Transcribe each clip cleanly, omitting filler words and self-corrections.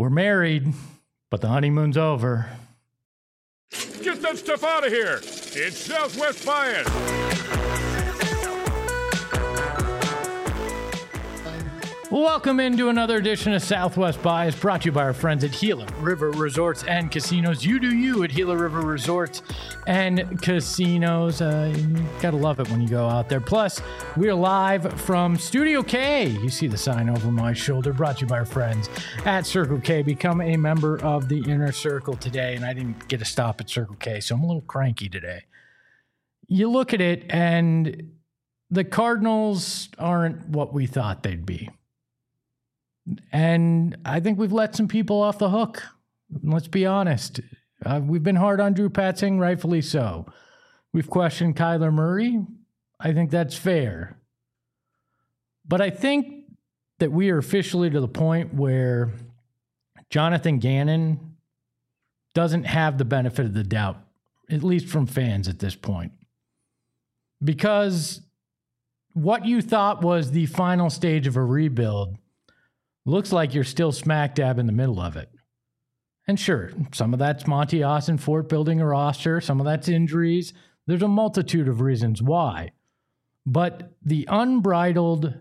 We're married, but the honeymoon's over. Get that stuff out of here. It's Southwest Bias. Welcome into another edition of Southwest Bias, brought to you by our friends at Gila River Resorts and Casinos. You do you at Gila River Resorts and Casinos. You gotta love it when you go out there. Plus, we're live from Studio K. You see the sign over my shoulder, brought to you by our friends at Circle K. Become a member of the Inner Circle today. And I didn't get a stop at Circle K, so I'm a little cranky today. You look at it, and the Cardinals aren't what we thought they'd be. And I think we've let some people off the hook. Let's be honest. We've been hard on Drew Petzing, rightfully so. We've questioned Kyler Murray. I think that's fair. But I think that we are officially to the point where Jonathan Gannon doesn't have the benefit of the doubt, at least from fans at this point. Because what you thought was the final stage of a rebuild looks like you're still smack dab in the middle of it. And sure, some of that's Monty Ossenfort building a roster. Some of that's injuries. There's a multitude of reasons why. But the unbridled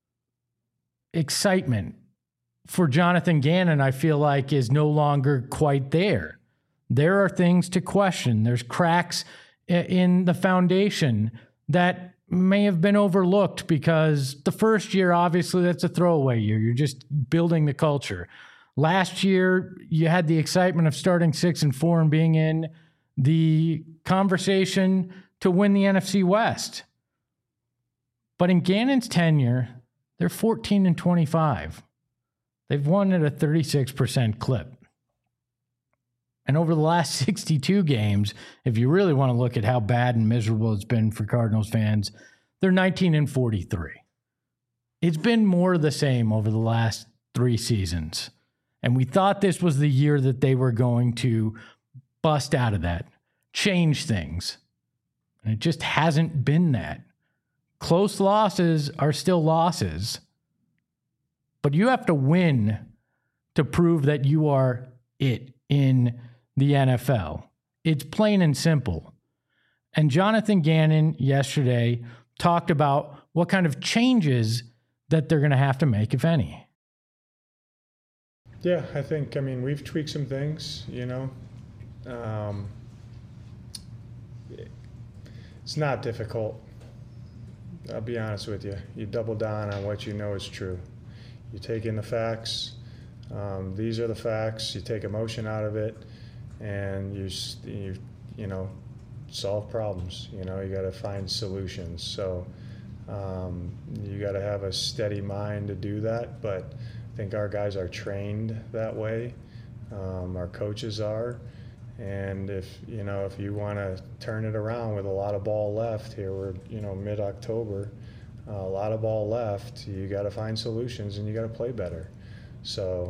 excitement for Jonathan Gannon, I feel like, is no longer quite there. There are things to question. There's cracks in the foundation that may have been overlooked because the first year, obviously, that's a throwaway year. You're just building the culture. Last year, you had the excitement of starting 6-4 and being in the conversation to win the NFC West. But in Gannon's tenure, they're 14-25. They've won at a 36% clip. And over the last 62 games, if you really want to look at how bad and miserable it's been for Cardinals fans, they're 19-43. It's been more of the same over the last 3 seasons. And we thought this was the year that they were going to bust out of that, change things. And it just hasn't been that. Close losses are still losses. But you have to win to prove that you are it in the NFL. It's plain and simple. And Jonathan Gannon yesterday talked about what kind of changes that they're going to have to make, if any. Yeah, I mean, we've tweaked some things, it's not difficult. I'll be honest with you. You double down on what you know is true. You take in the facts. These are the facts. You take emotion out of it, and you solve problems. You got to find solutions. So you got to have a steady mind to do that. But I think our guys are trained that way. Our coaches are. And if you want to turn it around with a lot of ball left here, we're mid-October, a lot of ball left. You got to find solutions, and you got to play better. So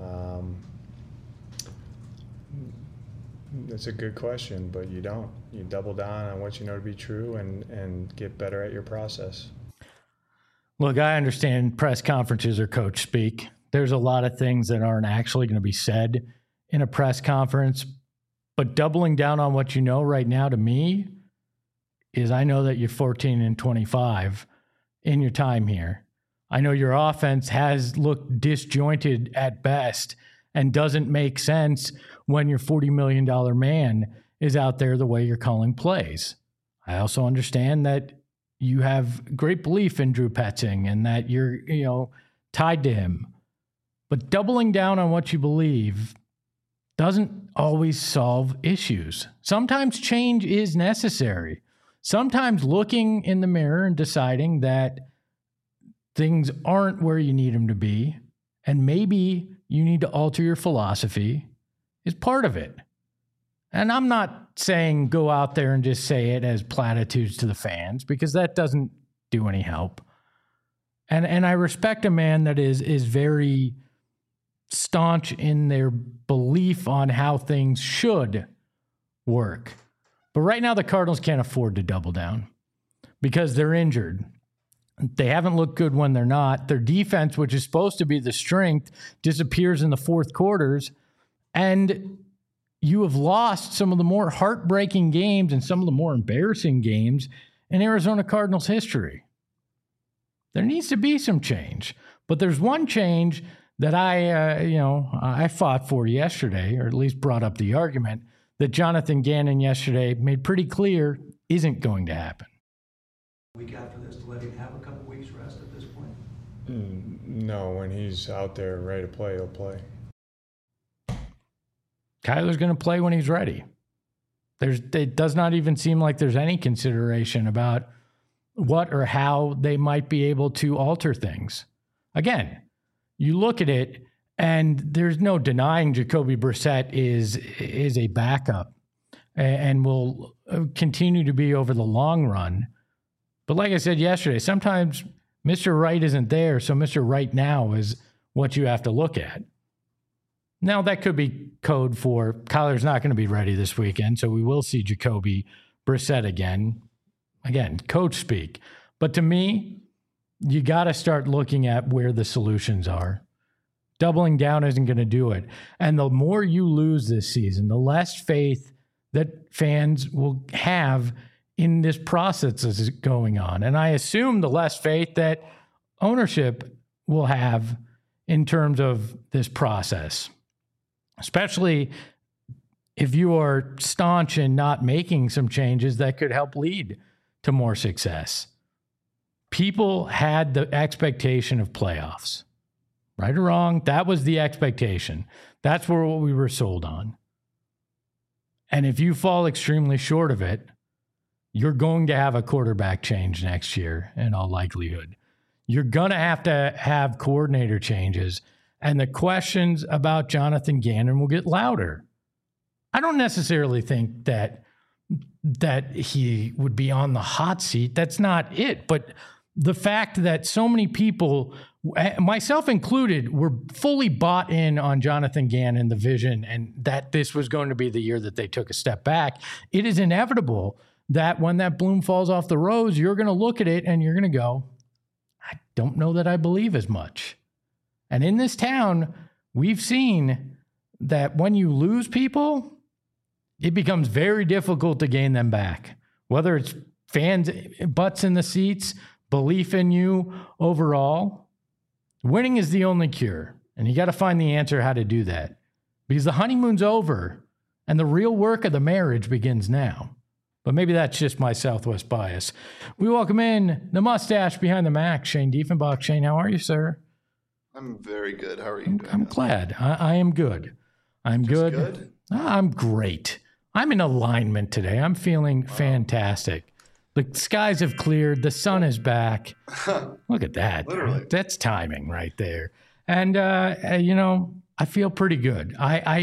it's a good question, but you don't. You double down on what you know to be true and get better at your process. Look, I understand press conferences are coach speak. There's a lot of things that aren't actually going to be said in a press conference, but doubling down on what you know right now to me is I know that you're 14-25 in your time here. I know your offense has looked disjointed at best and doesn't make sense when your $40 million man is out there the way you're calling plays. I also understand that you have great belief in Drew Petzing and that you're, tied to him. But doubling down on what you believe doesn't always solve issues. Sometimes change is necessary. Sometimes looking in the mirror and deciding that things aren't where you need them to be, and maybe you need to alter your philosophy, is part of it. And I'm not saying go out there and just say it as platitudes to the fans, because that doesn't do any help. And I respect a man that is very staunch in their belief on how things should work. But right now the Cardinals can't afford to double down because they're injured. They haven't looked good when they're not. Their defense, which is supposed to be the strength, disappears in the fourth quarters. And you have lost some of the more heartbreaking games and some of the more embarrassing games in Arizona Cardinals history. There needs to be some change. But there's one change that I fought for yesterday, or at least brought up the argument, that Jonathan Gannon yesterday made pretty clear isn't going to happen. Week after this to let him have a couple weeks rest at this point? No, when he's out there ready to play, he'll play. Kyler's going to play when he's ready. It does not even seem like there's any consideration about what or how they might be able to alter things. Again, you look at it, and there's no denying Jacoby Brissett is a backup and will continue to be over the long run. But like I said yesterday, sometimes Mr. Right isn't there, so Mr. Right now is what you have to look at. Now, that could be code for Kyler's not going to be ready this weekend, so we will see Jacoby Brissett again. Again, coach speak. But to me, you got to start looking at where the solutions are. Doubling down isn't going to do it. And the more you lose this season, the less faith that fans will have in this process that's going on. And I assume the less faith that ownership will have in terms of this process, especially if you are staunch in not making some changes that could help lead to more success. People had the expectation of playoffs. Right or wrong, that was the expectation. That's what we were sold on. And if you fall extremely short of it, you're going to have a quarterback change next year in all likelihood. You're going to have coordinator changes, and the questions about Jonathan Gannon will get louder. I don't necessarily think that he would be on the hot seat. That's not it. But the fact that so many people, myself included, were fully bought in on Jonathan Gannon, the vision, and that this was going to be the year that they took a step back, it is inevitable that when that bloom falls off the rose, you're going to look at it and you're going to go, I don't know that I believe as much. And in this town, we've seen that when you lose people, it becomes very difficult to gain them back. Whether it's fans' butts in the seats, belief in you overall, winning is the only cure. And you got to find the answer how to do that. Because the honeymoon's over and the real work of the marriage begins now. But maybe that's just my Southwest bias. We welcome in the mustache behind the Mac, Shane Diefenbach. Shane, how are you, sir? I'm very good. How are you doing? I'm glad. I am good. I'm Just good. I'm great. I'm in alignment today. I'm feeling fantastic. The skies have cleared. The sun is back. Look at that. Literally. That's timing right there. And, I feel pretty good. I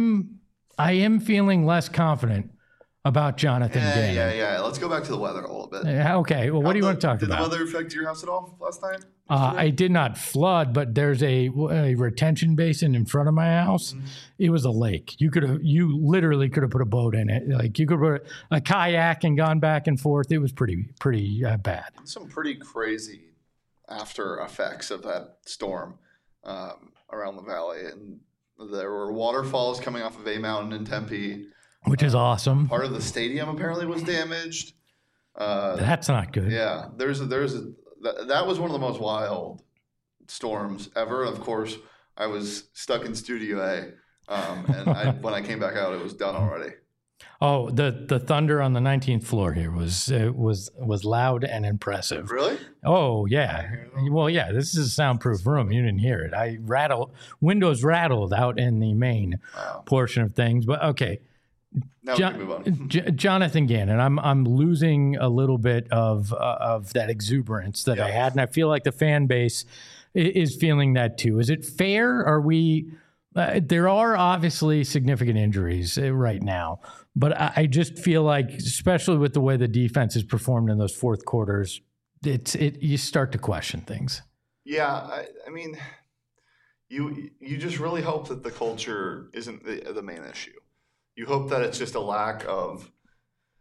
am feeling less confident about Jonathan Gannon. Yeah. Let's go back to the weather a little bit. Okay. Well, what do you want to talk about? Did the weather affect your house at all last night? I did not flood, but there's a retention basin in front of my house. Mm-hmm. It was a lake. You literally could have put a boat in it. Like you could put a kayak and gone back and forth. It was pretty bad. Some pretty crazy after effects of that storm around the valley, and there were waterfalls coming off of A Mountain in Tempe, which is awesome. Part of the stadium apparently was damaged. That's not good. Yeah, that was one of the most wild storms ever. Of course, I was stuck in Studio A, and when I came back out, it was done already. Oh, the thunder on the 19th floor here was loud and impressive. Really? Oh yeah. Well, yeah. This is a soundproof room. You didn't hear it. Windows rattled out in the main portion of things. But okay. Now we can move on. Jonathan Gannon, I'm losing a little bit of that exuberance that I had, and I feel like the fan base is feeling that too. Is it fair? Are we? There are obviously significant injuries right now, but I just feel like, especially with the way the defense has performed in those fourth quarters, you start to question things. Yeah, I mean, you just really hope that the culture isn't the main issue. You hope that it's just a lack of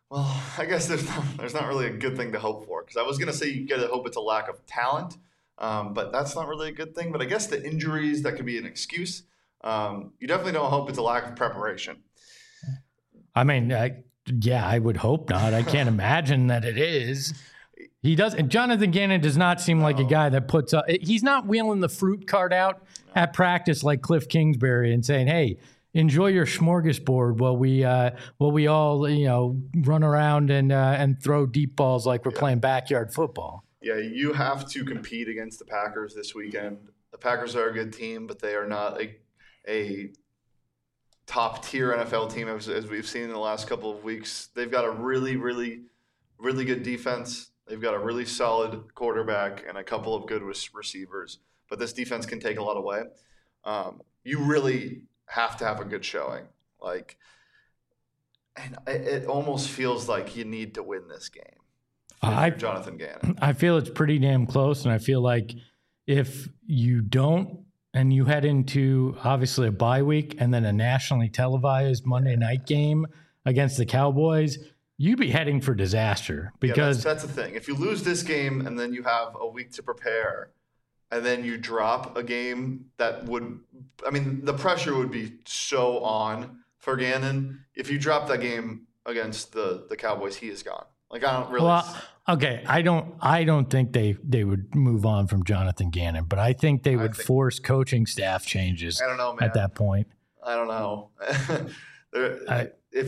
Well, I guess there's not really a good thing to hope for, because I was going to say you got to hope it's a lack of talent, but that's not really a good thing. But I guess the injuries, that could be an excuse. You definitely don't hope it's a lack of preparation. I mean, yeah, I would hope not. I can't imagine that it is. He does. And Jonathan Gannon does not seem like a guy that puts up. He's not wheeling the fruit cart out at practice like Cliff Kingsbury and saying, "Hey, enjoy your smorgasbord while we all run around and throw deep balls like we're playing backyard football." Yeah, you have to compete against the Packers this weekend. The Packers are a good team, but they are not a top-tier NFL team as we've seen in the last couple of weeks. They've got a really, really, really good defense. They've got a really solid quarterback and a couple of good receivers. But this defense can take a lot away. You really have to have a good showing. And it almost feels like you need to win this game. Jonathan Gannon. I feel it's pretty damn close, and I feel like if you don't, and you head into obviously a bye week and then a nationally televised Monday night game against the Cowboys, you'd be heading for disaster. Because that's the thing. If you lose this game and then you have a week to prepare, and then you drop a game the pressure would be so on for Gannon. If you drop that game against the Cowboys, he is gone. I don't really. Well, okay, I don't think they would move on from Jonathan Gannon, but I think they would force coaching staff changes. I don't know, man. At that point. I don't know. I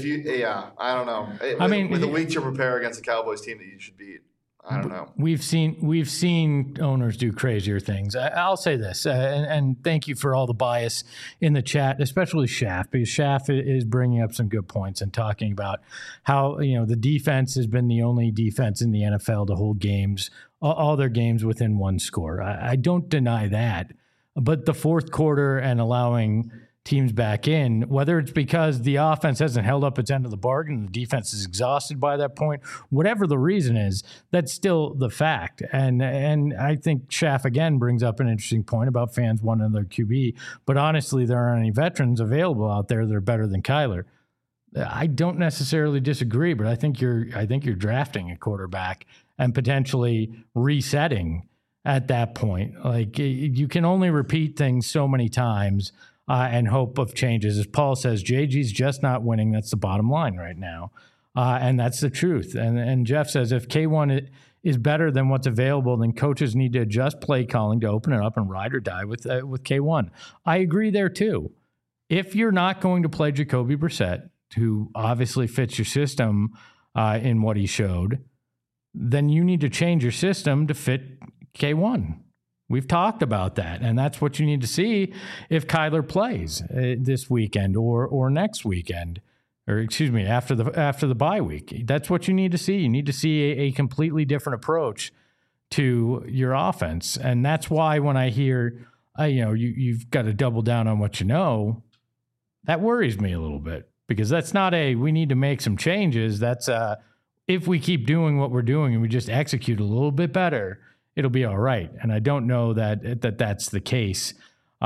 don't know. With a week to prepare against a Cowboys team that you should beat, I don't know. We've seen owners do crazier things. I'll say this, and thank you for all the bias in the chat, especially Schaff, because Schaff is bringing up some good points and talking about how the defense has been the only defense in the NFL to hold games, all their games within one score. I don't deny that, but the fourth quarter and allowing teams back in, whether it's because the offense hasn't held up its end of the bargain, the defense is exhausted by that point, whatever the reason is, that's still the fact. And I think Schaff again brings up an interesting point about fans wanting their QB, but honestly, there aren't any veterans available out there that are better than Kyler. I don't necessarily disagree, but I think you're drafting a quarterback and potentially resetting at that point. You can only repeat things so many times and hope of changes. As Paul says, JG's just not winning. That's the bottom line right now. And that's the truth. And Jeff says, if K1 is better than what's available, then coaches need to adjust play calling to open it up and ride or die with K1. I agree there too. If you're not going to play Jacoby Brissett, who obviously fits your system in what he showed, then you need to change your system to fit K1. We've talked about that, and that's what you need to see if Kyler plays this weekend or next weekend, or excuse me, after the bye week. That's what you need to see. You need to see a completely different approach to your offense, and that's why when I hear, you've got to double down on what you know, that worries me a little bit, because that's not we need to make some changes. That's if we keep doing what we're doing and we just execute a little bit better, it'll be all right. And I don't know that's the case,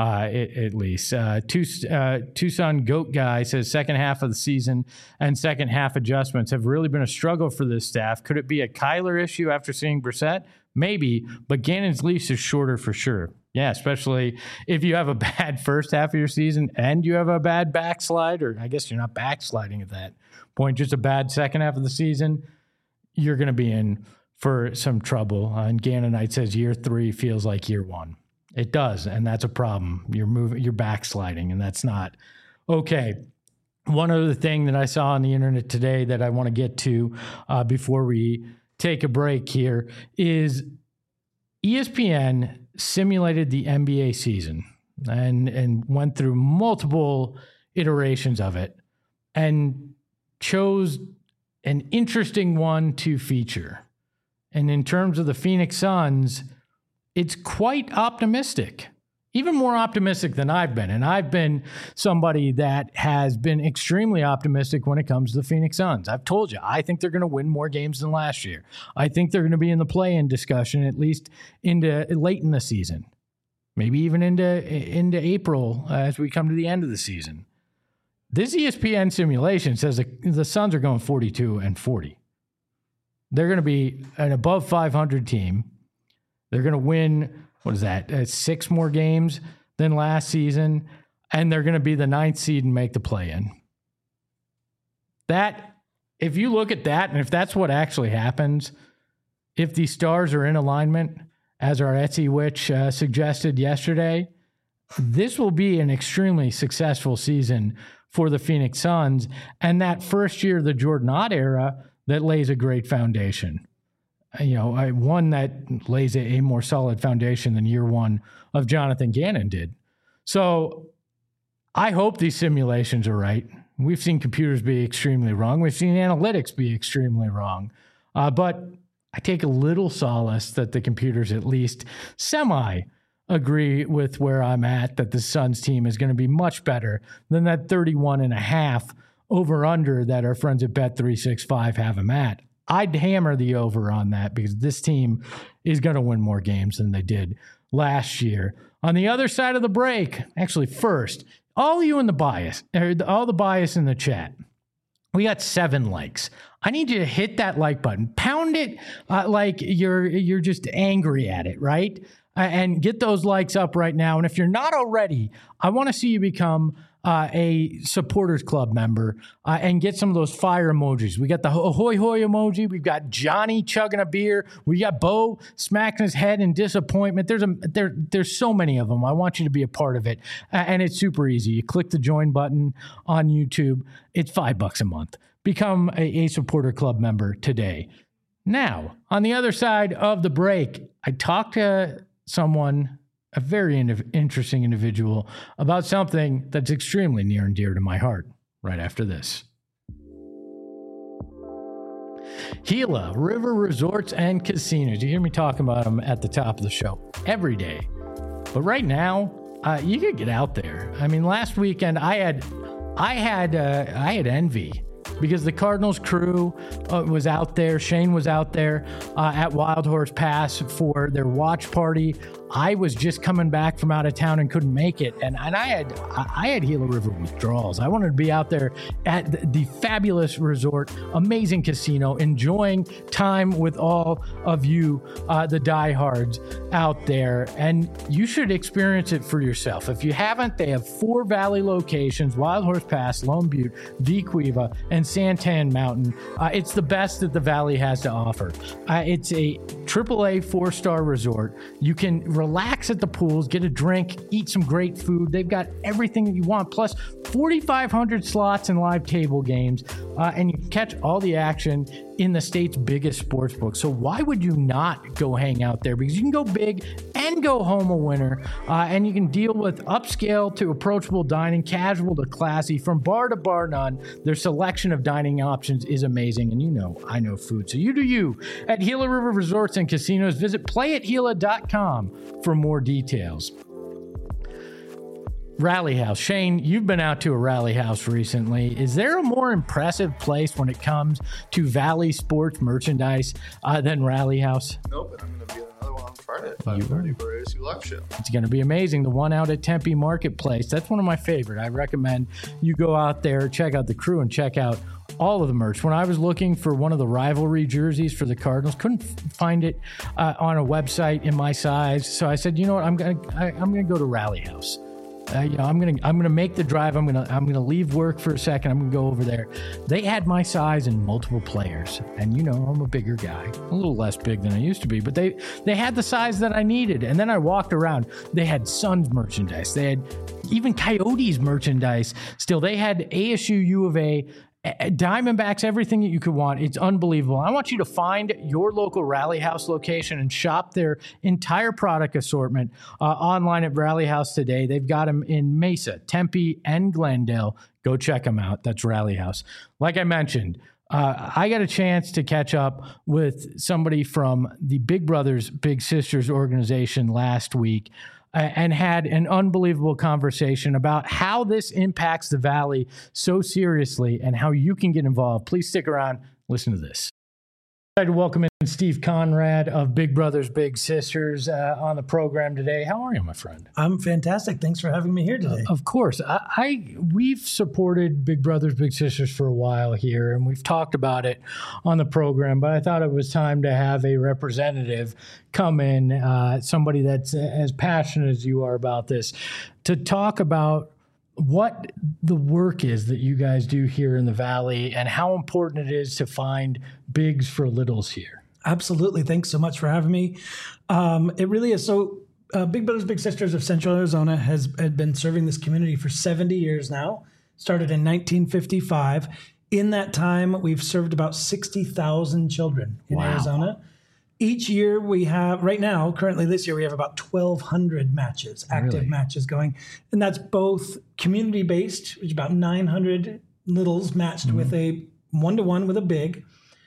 at least. Tucson Goat Guy says second half of the season and second half adjustments have really been a struggle for this staff. Could it be a Kyler issue after seeing Brissett? Maybe, but Gannon's leash is shorter for sure. Yeah, especially if you have a bad first half of your season and you have a bad backslide, or I guess you're not backsliding at that point, just a bad second half of the season, you're going to be in for some trouble. And Gannonite says year 3 feels like year 1. It does, and that's a problem. You're backsliding, and that's not okay. One other thing that I saw on the internet today that I want to get to before we take a break here is ESPN simulated the NBA season and went through multiple iterations of it and chose an interesting one to feature. And in terms of the Phoenix Suns, it's quite optimistic, even more optimistic than I've been. And I've been somebody that has been extremely optimistic when it comes to the Phoenix Suns. I've told you, I think they're going to win more games than last year. I think they're going to be in the play-in discussion, at least into late in the season, maybe even into April as we come to the end of the season. This ESPN simulation says the Suns are going 42-40. They're going to be an above 500 team. They're going to win, 6 more games than last season, and they're going to be the 9th seed and make the play-in. That, if you look at that, and if that's what actually happens, if the stars are in alignment, as our Etsy Witch suggested yesterday, this will be an extremely successful season for the Phoenix Suns, and that first year of the Jordan Ott era that lays a great foundation. One that lays a more solid foundation than year one of Jonathan Gannon did. So I hope these simulations are right. We've seen computers be extremely wrong. We've seen analytics be extremely wrong. But I take a little solace that the computers at least agree with where I'm at, that the Suns team is going to be much better than that 31.5 over-under that our friends at Bet365 have them at. I'd hammer the over on that because this team is going to win more games than they did last year. On the other side of the break, actually first, all you in the bias, all the bias in the chat, we got 7 likes. I need you to hit that like button. Pound it like you're just angry at it, right? And get those likes up right now. And if you're not already, I want to see you become a supporters club member and get some of those fire emojis. We got the hoy hoy emoji. We've got Johnny chugging a beer. We got Bo smacking his head in disappointment. There's so many of them. I want you to be a part of it. And it's super easy. You click the join button on YouTube. It's $5 a month. Become a supporter club member today. Now, on the other side of the break, I talked to someone, a very interesting individual, about something that's extremely near and dear to my heart right after this. Gila River Resorts and Casinos. You hear me talking about them at the top of the show every day. But right now, you could get out there. I mean, last weekend I had envy because the Cardinals crew was out there. Shane was out there at Wild Horse Pass for their watch party. I was just coming back from out of town and couldn't make it. And I had Gila River withdrawals. I wanted to be out there at the fabulous resort, amazing casino, enjoying time with all of you, the diehards out there. And you should experience it for yourself. If you haven't, they have 4 Valley locations: Wild Horse Pass, Lone Butte, Vequiva, and Santan Mountain. It's the best that the Valley has to offer. It's a AAA 4-star resort. You can relax at the pools, get a drink, eat some great food. They've got everything that you want, plus 4,500 slots and live table games, and you can catch all the action in the state's biggest sports book. So why would you not go hang out there? Because you can go big and go home a winner, and you can deal with upscale to approachable dining, casual to classy, from bar to bar none. Their selection of dining options is amazing, and I know food. So you do you at Gila River Resorts and Casinos. Visit playatgila.com for more details. Rally House. Shane, you've been out to a Rally House recently. Is there a more impressive place when it comes to Valley sports merchandise than Rally House? Nope, and I'm going to be at another one on Friday at 5:30 for ASU Live Show. It's going to be amazing. The one out at Tempe Marketplace, that's one of my favorite. I recommend you go out there, check out the crew, and check out all of the merch. When I was looking for one of the rivalry jerseys for the Cardinals, couldn't find it on a website in my size. So I said, you know what, I'm gonna go to Rally House. I'm gonna make the drive. I'm gonna leave work for a second. I'm gonna go over there. They had my size and multiple players, and I'm a bigger guy, a little less big than I used to be, but they had the size that I needed. And then I walked around. They had Suns merchandise. They had even Coyotes merchandise. Still, they had ASU, U of A, Diamondbacks, everything that you could want. It's unbelievable. I want you to find your local Rally House location and shop their entire product assortment online at Rally House today. They've got them in Mesa, Tempe, and Glendale. Go check them out. That's Rally House. Like I mentioned, I got a chance to catch up with somebody from the Big Brothers Big Sisters organization last week, and had an unbelievable conversation about how this impacts the Valley so seriously and how you can get involved. Please stick around. Listen to this. To welcome in Steve Conrad of Big Brothers Big Sisters on the program today. How are you, my friend? I'm fantastic. Thanks for having me here today. Of course. We've supported Big Brothers Big Sisters for a while here, and we've talked about it on the program, but I thought it was time to have a representative come in, somebody that's as passionate as you are about this, to talk about what the work is that you guys do here in the Valley and how important it is to find bigs for littles here. Absolutely. Thanks so much for having me. It really is. So Big Brothers Big Sisters of Central Arizona had been serving this community for 70 years now, started in 1955. In that time, we've served about 60,000 children in Arizona. Each year we have, right now, currently this year, we have about 1,200 matches, active matches going. And that's both community-based, which is about 900 littles matched with a one-to-one with a big.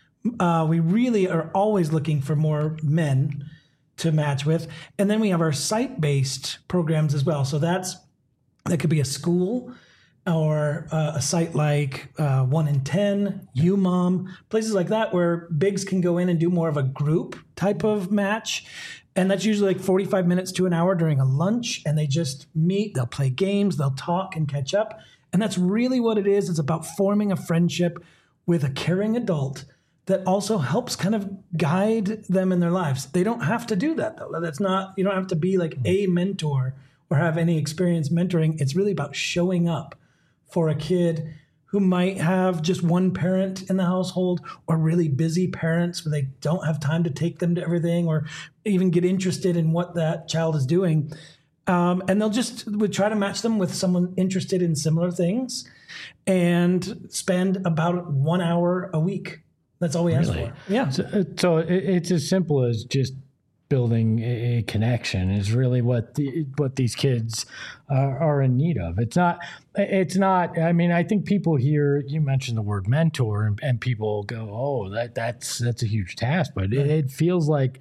We really are always looking for more men to match with. And then we have our site-based programs as well. So that could be a school or a site like 1 in 10, UMOM, places like that where bigs can go in and do more of a group type of match. And that's usually like 45 minutes to an hour during a lunch. And they just meet, they'll play games, they'll talk and catch up. And that's really what it is. It's about forming a friendship with a caring adult that also helps kind of guide them in their lives. They don't have to do that, though. That's not, you don't have to be like a mentor or have any experience mentoring. It's really about showing up for a kid who might have just one parent in the household or really busy parents where they don't have time to take them to everything or even get interested in what that child is doing. And we'll try to match them with someone interested in similar things and spend about 1 hour a week. That's all we ask for. Yeah. So it's as simple as just building a connection is really what these kids are in need of. It's not, I mean, I think people hear, you mentioned the word mentor and people go, oh, that's a huge task, but it feels like,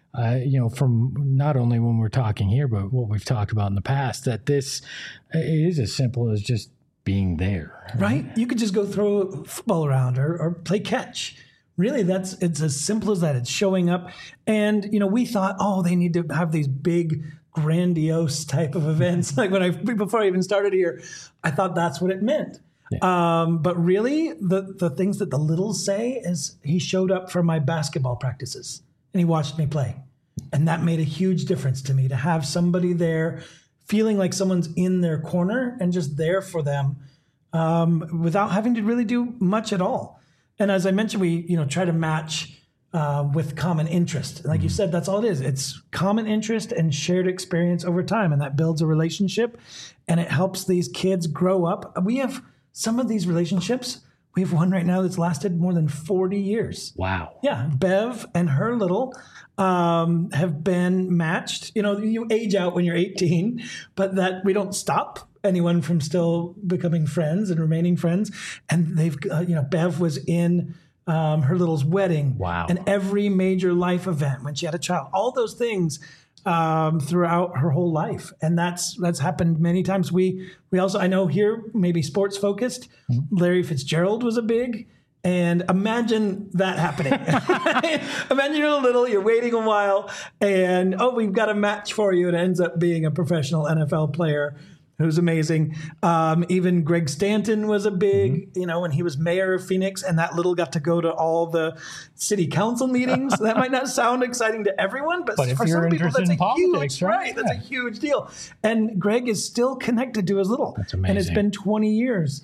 from not only when we're talking here, but what we've talked about in the past, that this is as simple as just being there. Right? You could just go throw a football around or play catch. Really, it's as simple as that. It's showing up. And, we thought, they need to have these big, grandiose type of events. Like before I even started here, I thought that's what it meant. Yeah. But really, the things that the littles say is he showed up for my basketball practices and he watched me play. And that made a huge difference to me, to have somebody there feeling like someone's in their corner and just there for them without having to really do much at all. And as I mentioned, we try to match with common interest. Like you said, that's all it is. It's common interest and shared experience over time, and that builds a relationship, and it helps these kids grow up. We have some of these relationships. We have one right now that's lasted more than 40 years. Wow. Yeah, Bev and her little have been matched. You age out when you're 18, but that we don't stop anyone from still becoming friends and remaining friends. And they've, Bev was in her little's wedding. Wow. And every major life event when she had a child, all those things throughout her whole life. And that's happened many times. We also, I know here, maybe sports focused, Larry Fitzgerald was a big. And imagine that happening. Imagine you're little, you're waiting a while, and we've got a match for you. And it ends up being a professional NFL player who's amazing. Even Greg Stanton was a big, when he was mayor of Phoenix, and that little got to go to all the city council meetings. That might not sound exciting to everyone, but for some people, that's a huge, right? That's a huge deal. And Greg is still connected to his little. That's amazing. And it's been 20 years.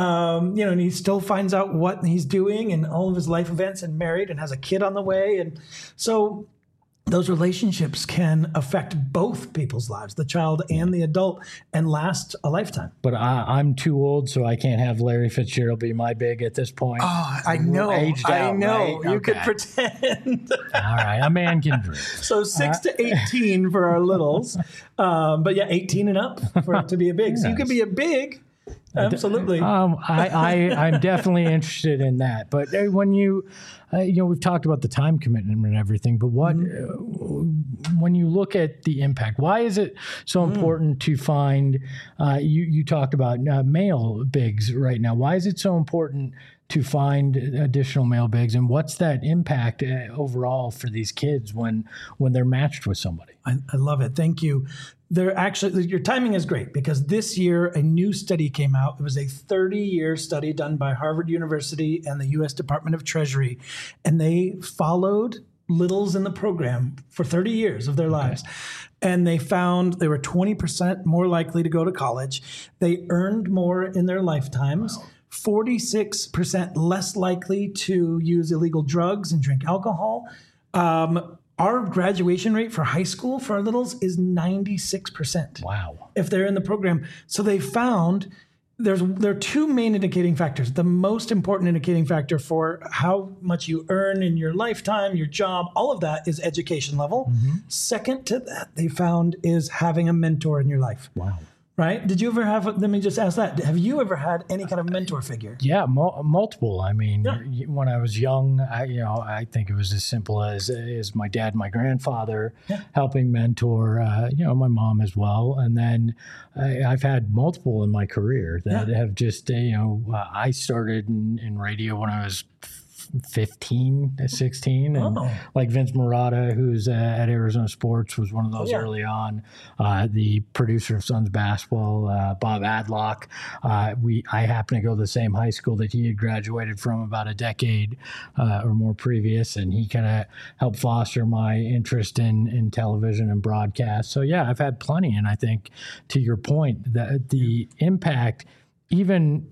And he still finds out what he's doing and all of his life events, and married and has a kid on the way. And so those relationships can affect both people's lives, the child and the adult, and last a lifetime. But I'm too old, so I can't have Larry Fitzgerald be my big at this point. Oh, I know. Aged out, I know. right? You could pretend. All right. A man can dream. So 6 to 18 for our littles. But yeah, 18 and up for it to be a big. So you could be a big Absolutely. I'm definitely interested in that. But when you we've talked about the time commitment and everything, but what, when you look at the impact, why is it so important to find, you talked about male bigs right now. Why is it so important to find additional male bigs, and what's that impact overall for these kids when they're matched with somebody? I love it. Thank you. They're actually, your timing is great because this year a new study came out. It was a 30-year study done by Harvard University and the U.S. Department of Treasury, and they followed littles in the program for 30 years of their lives. And they found they were 20% more likely to go to college. They earned more in their lifetimes. Wow. 46% less likely to use illegal drugs and drink alcohol. Our graduation rate for high school for our littles is 96%. Wow. If they're in the program. So they found there are two main indicating factors. The most important indicating factor for how much you earn in your lifetime, your job, all of that is education level. Second to that, they found, is having a mentor in your life. Wow. Right? Did you ever have, let me just ask that, have you ever had any kind of mentor figure? Yeah, multiple. I mean, when I was young, I think it was as simple as my dad and my grandfather helping mentor, my mom as well. And then I've had multiple in my career that have just, I started in radio when I was 15, 16, and like Vince Marotta, who's at Arizona Sports, was one of those early on. The producer of Suns basketball, Bob Adlock. I happened to go to the same high school that he had graduated from about a decade or more previous, and he kind of helped foster my interest in television and broadcast. So yeah, I've had plenty, and I think to your point, that the impact, even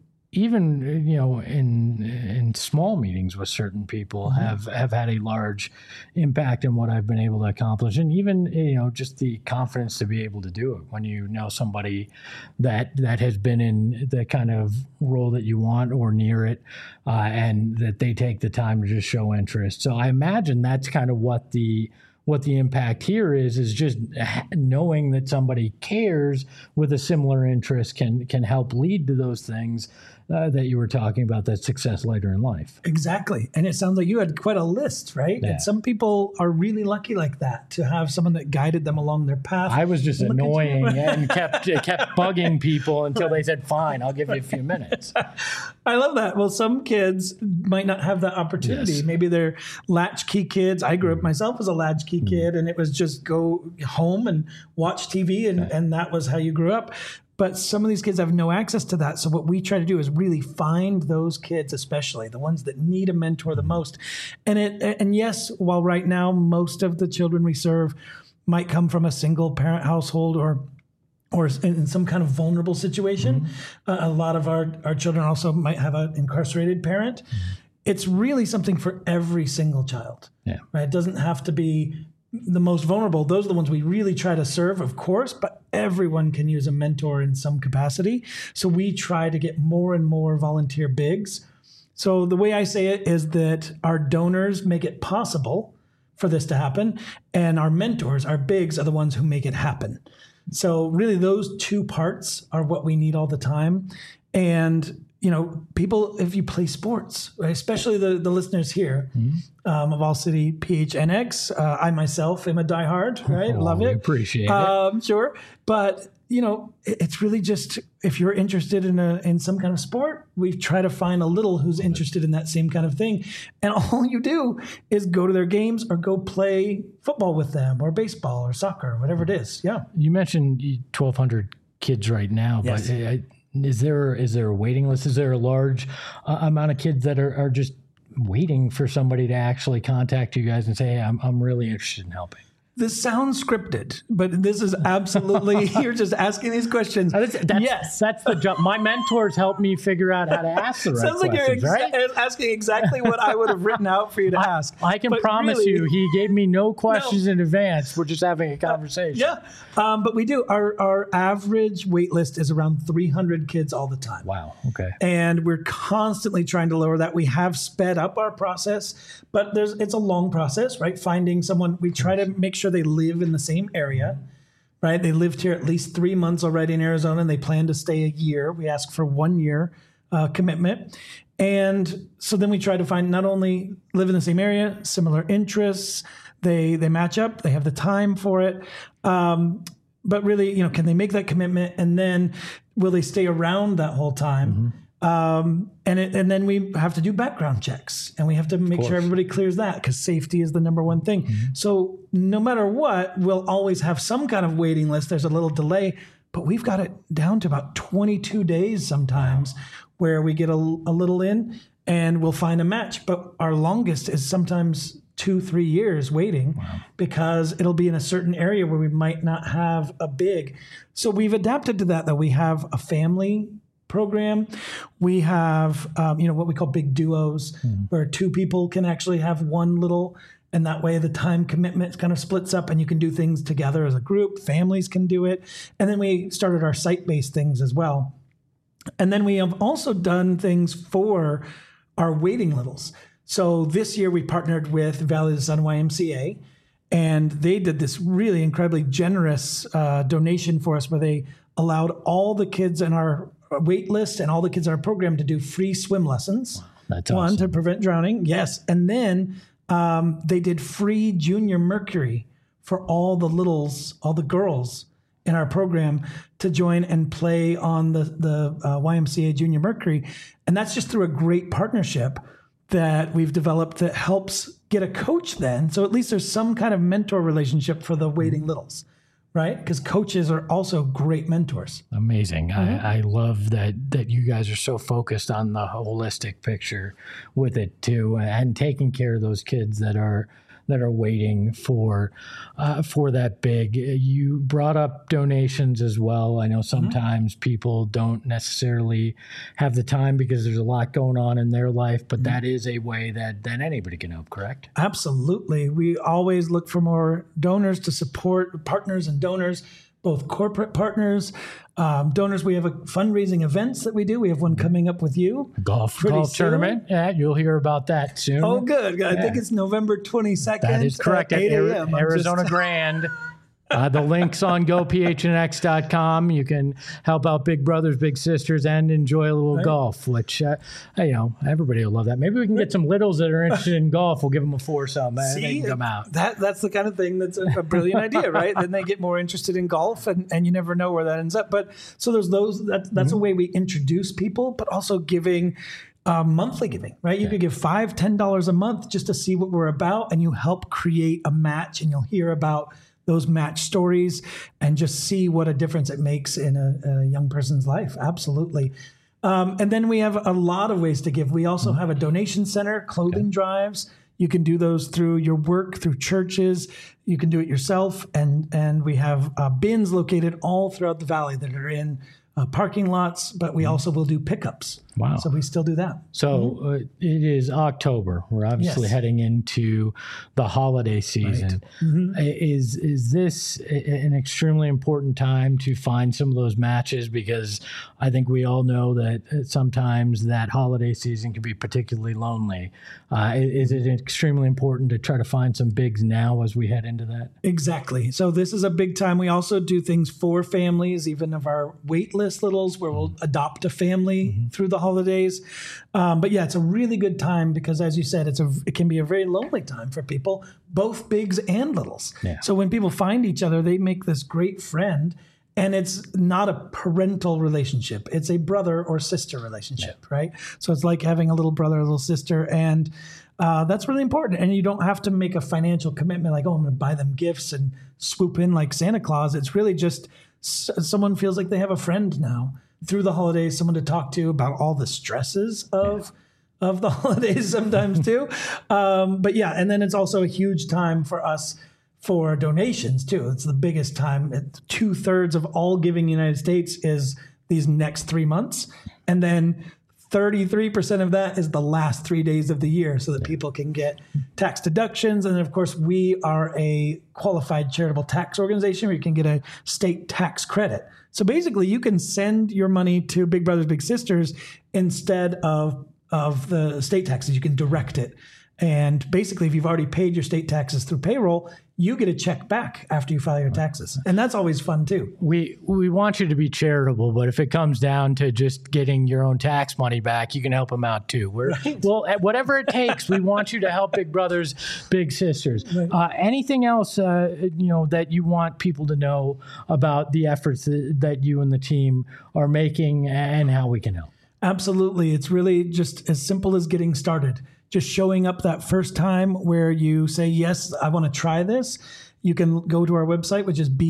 in small meetings with certain people have had a large impact in what I've been able to accomplish. And even, just the confidence to be able to do it when you know somebody that has been in the kind of role that you want or near it, and that they take the time to just show interest. So I imagine that's kind of what the impact here is just knowing that somebody cares with a similar interest can help lead to those things that you were talking about, that success later in life. Exactly. And it sounds like you had quite a list, right? Yeah. And some people are really lucky like that, to have someone that guided them along their path. I was just annoying and kept bugging people until they said, fine, I'll give you a few minutes. I love that. Well, some kids might not have that opportunity. Yes. Maybe they're latchkey kids. I grew up myself as a latchkey kid, and it was just go home and watch TV, and that was how you grew up. But some of these kids have no access to that. So what we try to do is really find those kids, especially the ones that need a mentor the most. And yes, while right now most of the children we serve might come from a single parent household or in some kind of vulnerable situation, a lot of our children also might have an incarcerated parent. It's really something for every single child. Yeah. Right? It doesn't have to be the most vulnerable. Those are the ones we really try to serve, of course, but everyone can use a mentor in some capacity. So we try to get more and more volunteer bigs. So the way I say it is that our donors make it possible for this to happen, and our mentors, our bigs, are the ones who make it happen. So really those two parts are what we need all the time. And people, if you play sports, right, especially the listeners here of All City PHNX, I myself am a diehard, right? Love it. Appreciate it. Sure. But, it's really just, if you're interested in some kind of sport, we try to find a little who's interested in that same kind of thing. And all you do is go to their games or go play football with them, or baseball or soccer, or whatever it is. Yeah. You mentioned 1,200 kids right now, yes. But is there a waiting list? Is there a large amount of kids that are just waiting for somebody to actually contact you guys and say, hey, I'm really interested in helping? This sounds scripted, but this is absolutely, you're just asking these questions. Yes. That's the job. My mentors help me figure out how to ask the right Sounds like questions, you're asking exactly what I would have written out for you to ask. I can promise you, he gave me no questions in advance. We're just having a conversation. But we do. Our average wait list is around 300 kids all the time. Wow. Okay. And we're constantly trying to lower that. We have sped up our process, but it's a long process, right? Finding someone, we try to make sure they live in the same area. right? They lived here at least 3 months already in Arizona, and they plan to stay a year. We ask for 1 year commitment. And so then we try to find not only live in the same area, similar interests, they match up, they have the time for it. But really, can they make that commitment, and then will they stay around that whole time? And then we have to do background checks, and we have to make sure everybody clears that, because safety is the number one thing. So no matter what, we'll always have some kind of waiting list. There's a little delay, but we've got it down to about 22 days sometimes where we get a little in and we'll find a match. But our longest is sometimes 2-3 years waiting because it'll be in a certain area where we might not have a big. So we've adapted to that, though. We have a family program. We have, what we call big duos, where 2 people can actually have one little, and that way the time commitment kind of splits up and you can do things together as a group. Families can do it. And then we started our site-based things as well. And then we have also done things for our waiting littles. So this year we partnered with Valley of the Sun YMCA, and they did this really incredibly generous donation for us, where they allowed all the kids in our wait list and all the kids in our program to do free swim lessons. That's One, awesome. to prevent drowning. Yes. And then they did free Junior Mercury for all the littles, all the girls in our program to join and play on the YMCA Junior Mercury. And that's just through a great partnership that we've developed that helps get a coach then. So at least there's some kind of mentor relationship for the waiting littles, right? Because coaches are also great mentors. Amazing. I love that you guys are so focused on the holistic picture with it too, and taking care of those kids that are waiting for that big. You brought up donations as well. I know sometimes people don't necessarily have the time because there's a lot going on in their life, but that is a way that anybody can help, correct? Absolutely. We always look for more donors to support partners and donors, both corporate partners, donors. We have fundraising events that we do. We have one coming up with you. Golf soon. tournament. Yeah, you'll hear about that soon. Oh, good. I think it's November 22nd. That is correct. At 8 a.m. Arizona Grand. The link's on gophnx.com. You can help out Big Brothers, Big Sisters, and enjoy a little golf, which, everybody will love that. Maybe we can get some littles that are interested in golf. We'll give them a foursome, and they can come out. That's the kind of thing that's a brilliant idea, right? Then they get more interested in golf, and you never know where that ends up. But so there's those. That's a way we introduce people, but also giving monthly giving, right? You could give $5, $10 a month just to see what we're about, and you help create a match, and you'll hear about those match stories and just see what a difference it makes in a young person's life. Absolutely. And then we have a lot of ways to give. We also have a donation center, clothing drives. You can do those through your work, through churches. You can do it yourself. And we have bins located all throughout the valley that are in parking lots, but we also will do pickups. Wow. So we still do that. So it is October. We're obviously heading into the holiday season. Right. Is this an extremely important time to find some of those matches? Because I think we all know that sometimes that holiday season can be particularly lonely. Is it extremely important to try to find some bigs now as we head into that? Exactly. So this is a big time. We also do things for families, even of our wait list littles, where we'll adopt a family through the holidays. But yeah, it's a really good time because, as you said, it can be a very lonely time for people, both bigs and littles. Yeah. So when people find each other, they make this great friend, and it's not a parental relationship. It's a brother or sister relationship, right? So it's like having a little brother or little sister, and that's really important. And you don't have to make a financial commitment like, oh, I'm going to buy them gifts and swoop in like Santa Claus. It's really just someone feels like they have a friend now through the holidays, someone to talk to about all the stresses of the holidays sometimes too. But yeah, and then it's also a huge time for us for donations too. It's the biggest time. 2/3 of all giving in the United States is these next 3 months. And then 33% of that is the last 3 days of the year so that people can get tax deductions. And then, of course, we are a qualified charitable tax organization where you can get a state tax credit. So basically, you can send your money to Big Brothers Big Sisters instead of the state taxes. You can direct it. And basically, if you've already paid your state taxes through payroll, you get a check back after you file your taxes. And that's always fun too. We want you to be charitable, but if it comes down to just getting your own tax money back, you can help them out too. Well, whatever it takes, we want you to help Big Brothers Big Sisters. Right. Anything else that you want people to know about the efforts that you and the team are making and how we can help? Absolutely. It's really just as simple as getting started. Just showing up that first time where you say, yes, I want to try this. You can go to our website, which is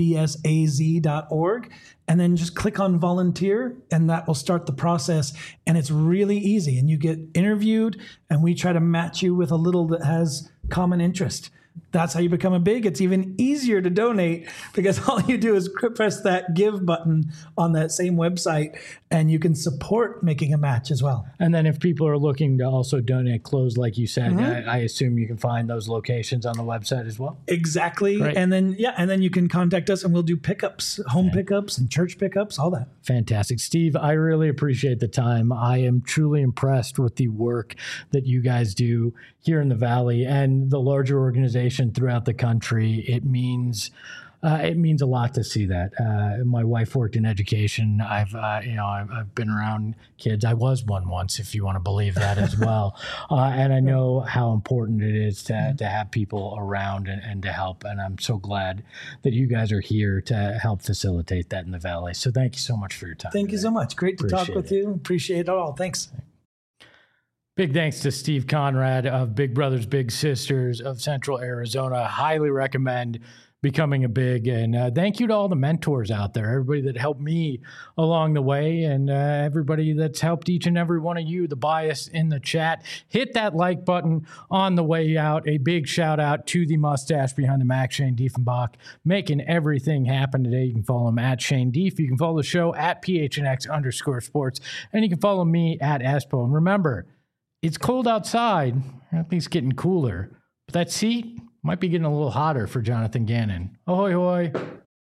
bbbsaz.org, and then just click on volunteer, and that will start the process. And it's really easy. And you get interviewed, and we try to match you with a little that has common interest. That's how you become a big. It's even easier to donate because all you do is press that give button on that same website and you can support making a match as well. And then if people are looking to also donate clothes, like you said, I assume you can find those locations on the website as well. Exactly. Great. And then you can contact us and we'll do pickups, home pickups and church pickups, all that. Fantastic. Steve, I really appreciate the time. I am truly impressed with the work that you guys do here in the Valley and the larger organization throughout the country. It means a lot to see that. My wife worked in education. I've been around kids. I was one once, if you want to believe that as well. And I know how important it is to have people around and to help. And I'm so glad that you guys are here to help facilitate that in the Valley. So thank you so much for your time. Thank you so much. Great to talk with you. Appreciate it all. Thanks. Big thanks to Steve Conrad of Big Brothers Big Sisters of Central Arizona. Highly recommend becoming a big. And thank you to all the mentors out there, everybody that helped me along the way, and everybody that's helped each and every one of you, the bias in the chat. Hit that like button on the way out. A big shout out to the mustache behind the Mac, Shane Diefenbach, making everything happen today. You can follow him at Shane Dief. You can follow the show at PHNX_sports. And you can follow me at Espo. And remember, it's cold outside, or at least getting cooler, but that seat might be getting a little hotter for Jonathan Gannon. Ahoy, hoy.